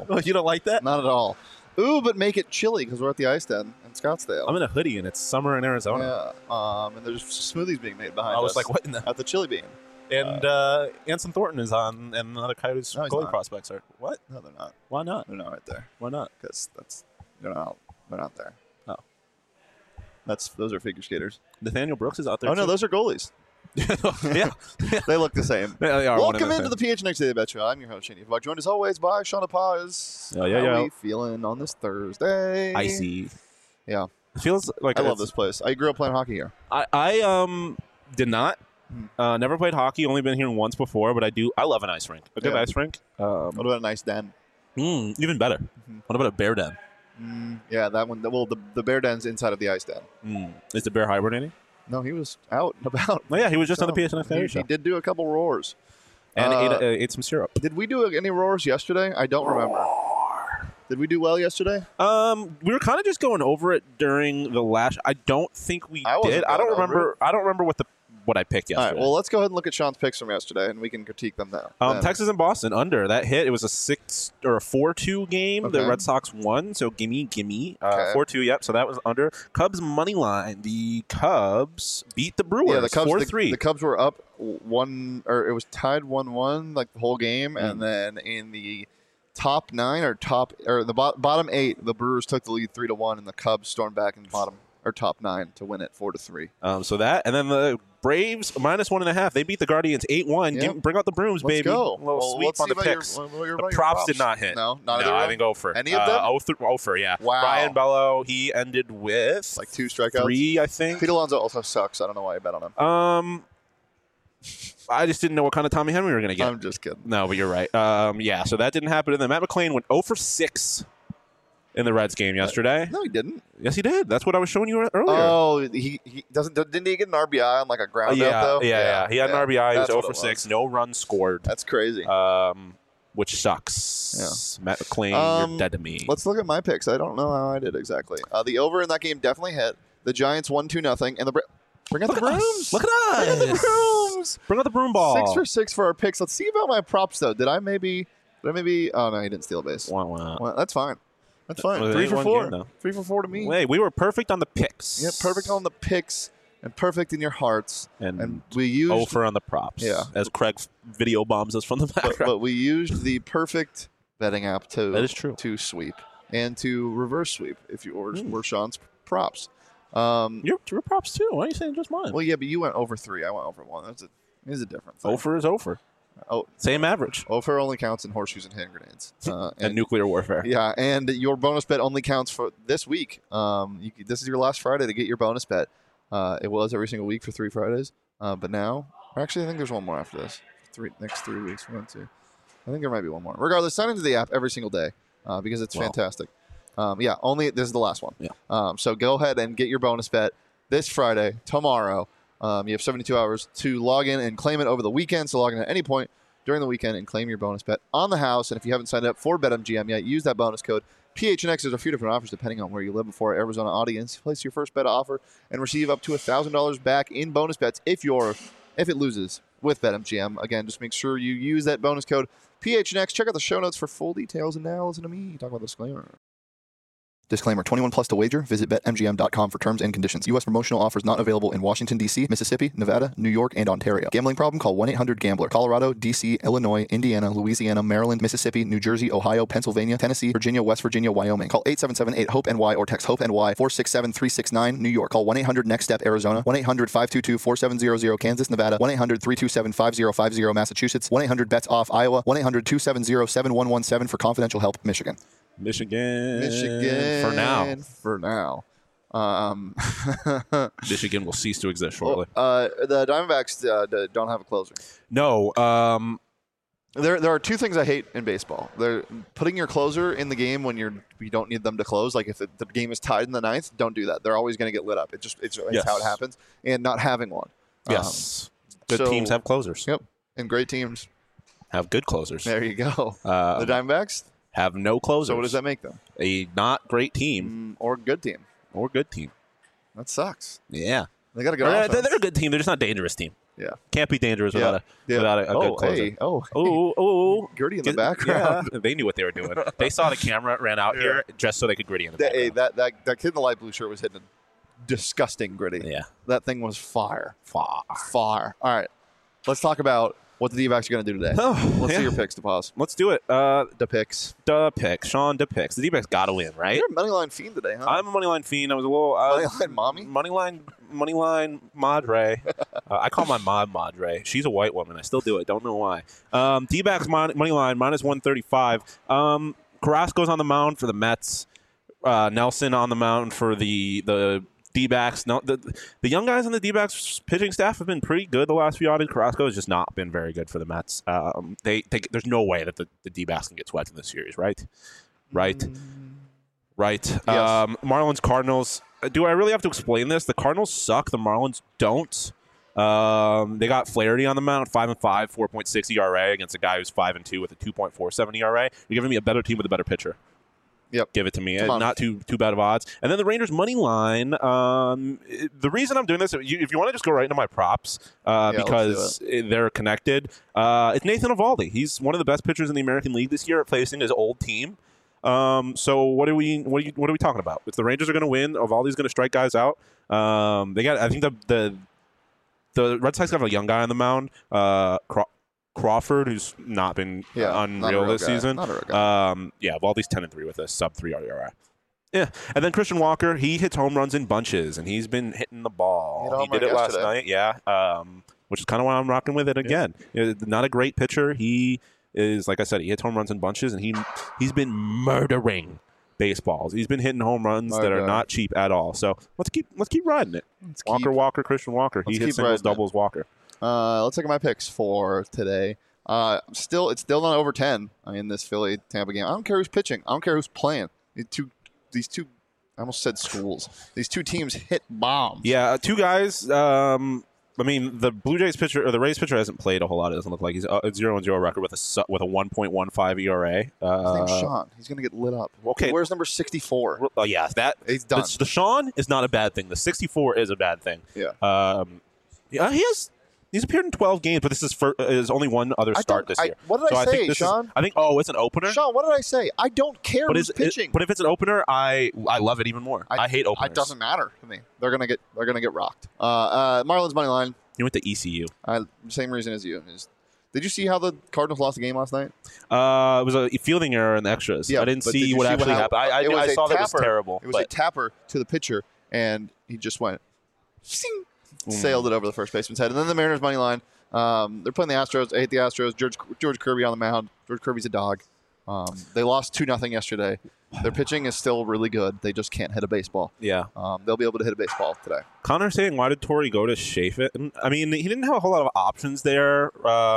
Oh, you don't like that? Not at all. Ooh, but make it chilly because we're at the Ice Den in Scottsdale. I'm in a hoodie and it's summer in Arizona. Yeah. And there's smoothies being made behind us. I was like, what in the... At the Chili Bean. And Anson Thornton is on, and other Coyotes goalie prospects are. What? No, they're not. Why not? They're not right there. Why not? Because they're not there. Oh. Those are figure skaters. Nathaniel Brooks is out there. Oh, no, those are goalies. Yeah. They look the same. Yeah, they are. Welcome into the PHNX Daily Bet Show. I'm your host, Shane. I'm joined as always by Shauna Paz. How are we feeling on this Thursday? Icy. Yeah. It feels like I love this place. I grew up playing hockey here. I did not. Never played hockey. Only been here once before, but I love an ice rink. A good ice rink. What about a nice den? Even better. What about a bear den? Yeah, that one. Well, the bear den's inside of the ice den. Is the bear hibernating? No, he was out and about. Oh, yeah, he was just on the PSNX show. He did do a couple roars. And ate some syrup. Did we do any roars yesterday? I don't remember. Did we do well yesterday? We were kind of just going over it during the last. I don't think we did. I don't remember. I don't remember what I picked yesterday. All right, well, let's go ahead and look at Sean's picks from yesterday, and we can critique them now. Texas and Boston under that hit. It was a 6 or a 4-2 game. Okay. The Red Sox won, so gimme. 4-2. Yep. So that was under. Cubs money line. The Cubs beat the Brewers. Yeah, the Cubs 4-3. The Cubs were up 1, or it was tied 1-1 like the whole game, and then in the top 9 or the bottom 8, the Brewers took the lead 3-1, and the Cubs stormed back in the top 9 to win it 4-3. So that, and then the Braves -1.5. They beat the Guardians 8-1. Yep. Bring out the brooms, Let's baby. Go. A little sweep on the picks. The props did not hit. No, I think Ofer. Any of them? Ofer, yeah. Wow. Brian Bello, he ended with like 2 strikeouts. 3, I think. Pete Alonso also sucks. I don't know why you bet on him. I just didn't know what kind of Tommy Henry we were going to get. I'm just kidding. No, but you're right. Yeah, so that didn't happen. And then Matt McClain went 0 for 6 in the Reds game yesterday. No, he didn't. Yes, he did. That's what I was showing you earlier. Oh, he doesn't. Didn't he get an RBI on like a ground out though? Yeah. He had an RBI. He was 0 for 6. No runs scored. That's crazy. Which sucks. Yeah. Matt McClain, you're dead to me. Let's look at my picks. I don't know how I did exactly. The over in that game definitely hit. The Giants won 2-0, and bring out the brooms. Look at us. Bring out the brooms. Bring out the broom ball. 6 for 6 for our picks. Let's see about my props though. Did I maybe? Oh no, he didn't steal a base. Wow. That's fine. That's fine. 3 for 4. 3 for 4 to me. Wait, we were perfect on the picks. Yeah, perfect on the picks and perfect in your hearts. And we used over on the props. Yeah. As Craig video bombs us from the background. But we used the perfect betting app that is true. To sweep and to reverse sweep if you were Sean's props. Your props too. Why are you saying just mine? Well, yeah, but you went over 3. I went over 1. There's a difference. Over is over. Oh, same average. Over only counts in horseshoes and hand grenades and nuclear warfare. Yeah, and your bonus bet only counts for this week. This is your last Friday to get your bonus bet. It was every single week for 3 Fridays, but now, actually, I think there's one more after this. Next 3 weeks, 1, 2. I think there might be one more. Regardless, sign into the app every single day because it's fantastic. Only this is the last one. Yeah. So go ahead and get your bonus bet this Friday, tomorrow. You have 72 hours to log in and claim it over the weekend. So log in at any point during the weekend and claim your bonus bet on the house. And if you haven't signed up for BetMGM yet, use that bonus code PHNX. There's a few different offers depending on where you live before our Arizona audience. Place your first bet offer and receive up to $1,000 back in bonus bets if it loses with BetMGM. Again, just make sure you use that bonus code PHNX. Check out the show notes for full details. And now listen to me talk about the disclaimer. Disclaimer, 21 plus to wager. Visit BetMGM.com for terms and conditions. U.S. promotional offers not available in Washington, D.C., Mississippi, Nevada, New York, and Ontario. Gambling problem? Call 1-800-GAMBLER. Colorado, D.C., Illinois, Indiana, Louisiana, Maryland, Mississippi, New Jersey, Ohio, Pennsylvania, Tennessee, Virginia, West Virginia, Wyoming. Call 877-8-HOPE-NY or text HOPE-NY 467-369. New York. Call 1-800-NEXT-STEP, Arizona. 1-800-522-4700, Kansas, Nevada. 1-800-327-5050, Massachusetts. 1-800-BETS-OFF, Iowa. 1-800-270-7117 for confidential help, Michigan. Michigan. For now. Michigan will cease to exist shortly. The Diamondbacks don't have a closer. No. There are 2 things I hate in baseball. They're putting your closer in the game when you don't need them to close. Like if the game is tied in the 9th, don't do that. They're always going to get lit up. It's how it happens. And not having one. Yes. Good teams have closers. Yep. And great teams have good closers. There you go. The Diamondbacks have no closers. So what does that make them? A not great team. Or good team. Or good team. That sucks. Yeah. They got a good offense. They're a good team. They're just not a dangerous team. Yeah. Can't be dangerous without a good closer. Hey, Gritty in the background. Yeah, they knew what they were doing. They saw the camera, ran out here just so they could Gritty in the background. That kid in the light blue shirt was hitting a disgusting Gritty. Yeah. That thing was fire. All right. Let's talk about what the D-backs are going to do today. Let's see your picks, DePaz. Let's do it. The picks. Sean, the picks. The D-backs got to win, right? You're a moneyline fiend today, huh? I'm a moneyline fiend. I was a little... moneyline mommy? Moneyline madre. I call my mom Madre. She's a white woman. I still do it. Don't know why. D-backs moneyline, minus 135. Carrasco's on the mound for the Mets. Nelson on the mound for the D-backs. No, the young guys on the D-backs pitching staff have been pretty good the last few outings. Carrasco has just not been very good for the Mets. There's no way that the D-backs can get swept in this series, right? Right. Yes. Marlins, Cardinals. Do I really have to explain this? The Cardinals suck. The Marlins don't. They got Flaherty on the mound, 5-5, 4.6 ERA against a guy who's 5-2 with a 2.47 ERA. You're giving me a better team with a better pitcher. Yep. Give it to me. Not too bad of odds. And then the Rangers money line. The reason I'm doing this, if you want to just go right into my props, because they're connected, it's Nathan Eovaldi. He's one of the best pitchers in the American League this year at facing his old team. So what are we talking about? If the Rangers are going to win, Eovaldi's going to strike guys out. I think the Red Sox have a young guy on the mound, Crawford, who's not been unreal this season. Not a real guy. Eovaldi's 10-3 with a sub-3 ERA. Yeah, and then Christian Walker, he hits home runs in bunches, and he's been hitting the ball. He did it last night, which is kind of why I'm rocking with it again. Not a great pitcher. He is, like I said, he hits home runs in bunches, and he's been murdering baseballs. He's been hitting home runs that are not cheap at all. So let's keep riding it. Walker, Christian Walker. He hits singles, doubles, Walker. Let's look at my picks for today. It's still not over 10 in this Philly-Tampa game. I don't care who's pitching. I don't care who's playing. These two, I almost said schools. These two teams hit bombs. Yeah, two guys. The Blue Jays pitcher or the Rays pitcher hasn't played a whole lot. It doesn't look like he's 0-0 record with a 1.15 ERA. His name's Sean. He's gonna get lit up. Okay, where's number 64? Oh yeah, he's done. The Sean is not a bad thing. The 64 is a bad thing. Yeah. He's appeared in 12 games, but this is only one other start this year. What did I say, Sean? It's an opener. Sean, what did I say? I don't care who's pitching. But if it's an opener, I love it even more. I hate openers. It doesn't matter to me. They're gonna get rocked. Marlins money line. You went to ECU. Same reason as you. Did you see how the Cardinals lost the game last night? It was a fielding error in the extras. I didn't see what actually happened. I saw that it was terrible. It was a tapper to the pitcher, and he just went, sailed it over the first baseman's head. And then the Mariners money line. They're playing the Astros. I hate the Astros. George Kirby on the mound. George Kirby's a dog. They lost 2-0 yesterday. Their pitching is still really good. They just can't hit a baseball. Yeah. They'll be able to hit a baseball today. Connor saying, why did Torrey go to Shafit? He didn't have a whole lot of options there.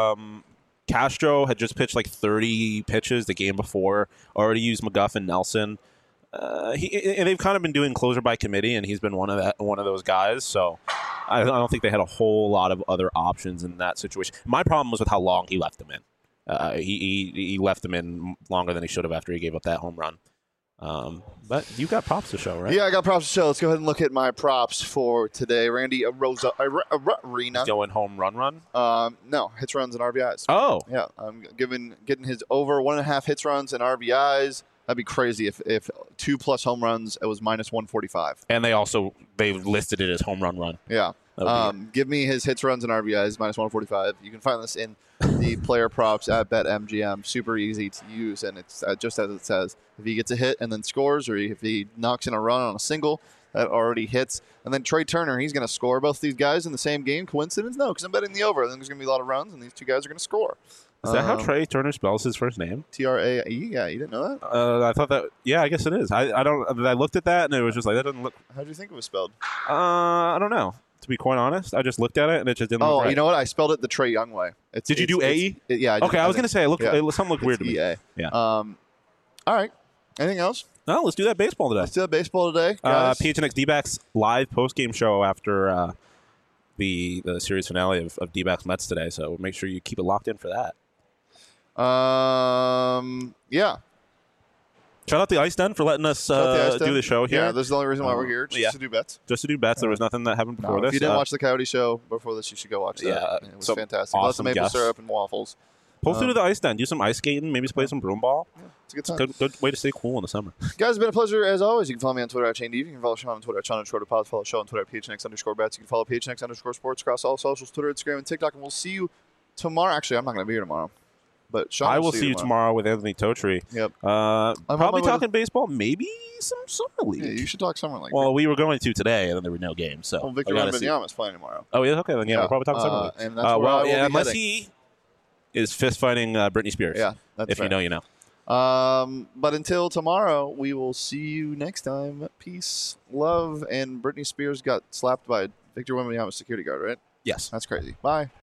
Castro had just pitched like 30 pitches the game before. Already used McGuff and Nelson. And they've kind of been doing closer by committee, and he's been one of those guys. So I don't think they had a whole lot of other options in that situation. My problem was with how long he left them in. He left them in longer than he should have after he gave up that home run. But you got props to show, right? Yeah, I got props to show. Let's go ahead and look at my props for today. Randy Arena. Going home run? No, hits, runs, and RBIs. Oh. Yeah, I'm getting his over 1.5 hits, runs, and RBIs. That'd be crazy if 2+ home runs, it was minus 145. And they listed it as home run. Yeah. Give me his hits, runs, and RBIs, minus 145. You can find this in the player props at BetMGM. Super easy to use, and it's just as it says. If he gets a hit and then scores, or if he knocks in a run on a single, that already hits. And then Trey Turner, he's going to score. Both these guys in the same game. Coincidence? No, because I'm betting the over. I think there's going to be a lot of runs, and these two guys are going to score. Is that how Trey Turner spells his first name? Trae. Yeah, you didn't know that? I thought that. Yeah, I guess it is. I looked at that and it was just like that doesn't look. How do you think it was spelled? I don't know. To be quite honest, I just looked at it and it just didn't. look right. You know what? I spelled it the Trey Young way. Did you do AE? Yeah. I was going to say something looked weird to me. EA. Yeah. All right. Anything else? No, let's do that baseball today. Let's do that baseball today, guys. PHNX D-backs live post-game show after the series finale of D-backs Mets today. So make sure you keep it locked in for that. Yeah. Shout out the Ice Den for letting us do the show here. Yeah, this is the only reason why we're here, just to do bets. Just to do bets. There was nothing that happened before this. If you didn't watch the Coyote Show before this, you should go watch that. Yeah, it was fantastic. Lots of awesome maple guests. syrup and waffles. Post through to the Ice Den. Do some ice skating. Maybe play some broom ball. Yeah, it's a good time. Good way to stay cool in the summer. Guys, it's been a pleasure as always. You can follow me on Twitter at Shane Deeb. You can follow Sean on Twitter at Sean_Pods. Follow the show on Twitter at PHNX_bets. You can follow PHNX_sports across all socials, Twitter, Instagram, and TikTok. And we'll see you tomorrow. Actually, I'm not going to be here tomorrow. But Sean I will see you tomorrow with Anthony Totri. Yep. Probably talking baseball. Maybe some summer league. Yeah, you should talk summer league. Well, we were going to today, and then there were no games. So Victor Wembanyama is playing tomorrow. Oh, yeah, okay. Then we'll probably talk summer league. And that's where I will be unless heading. he is fist fighting Britney Spears. Yeah, that's if fair. you know, you know. But until tomorrow, we will see you next time. Peace, love, and Britney Spears got slapped by Victor Wembanyama's security guard, right? Yes. That's crazy. Bye.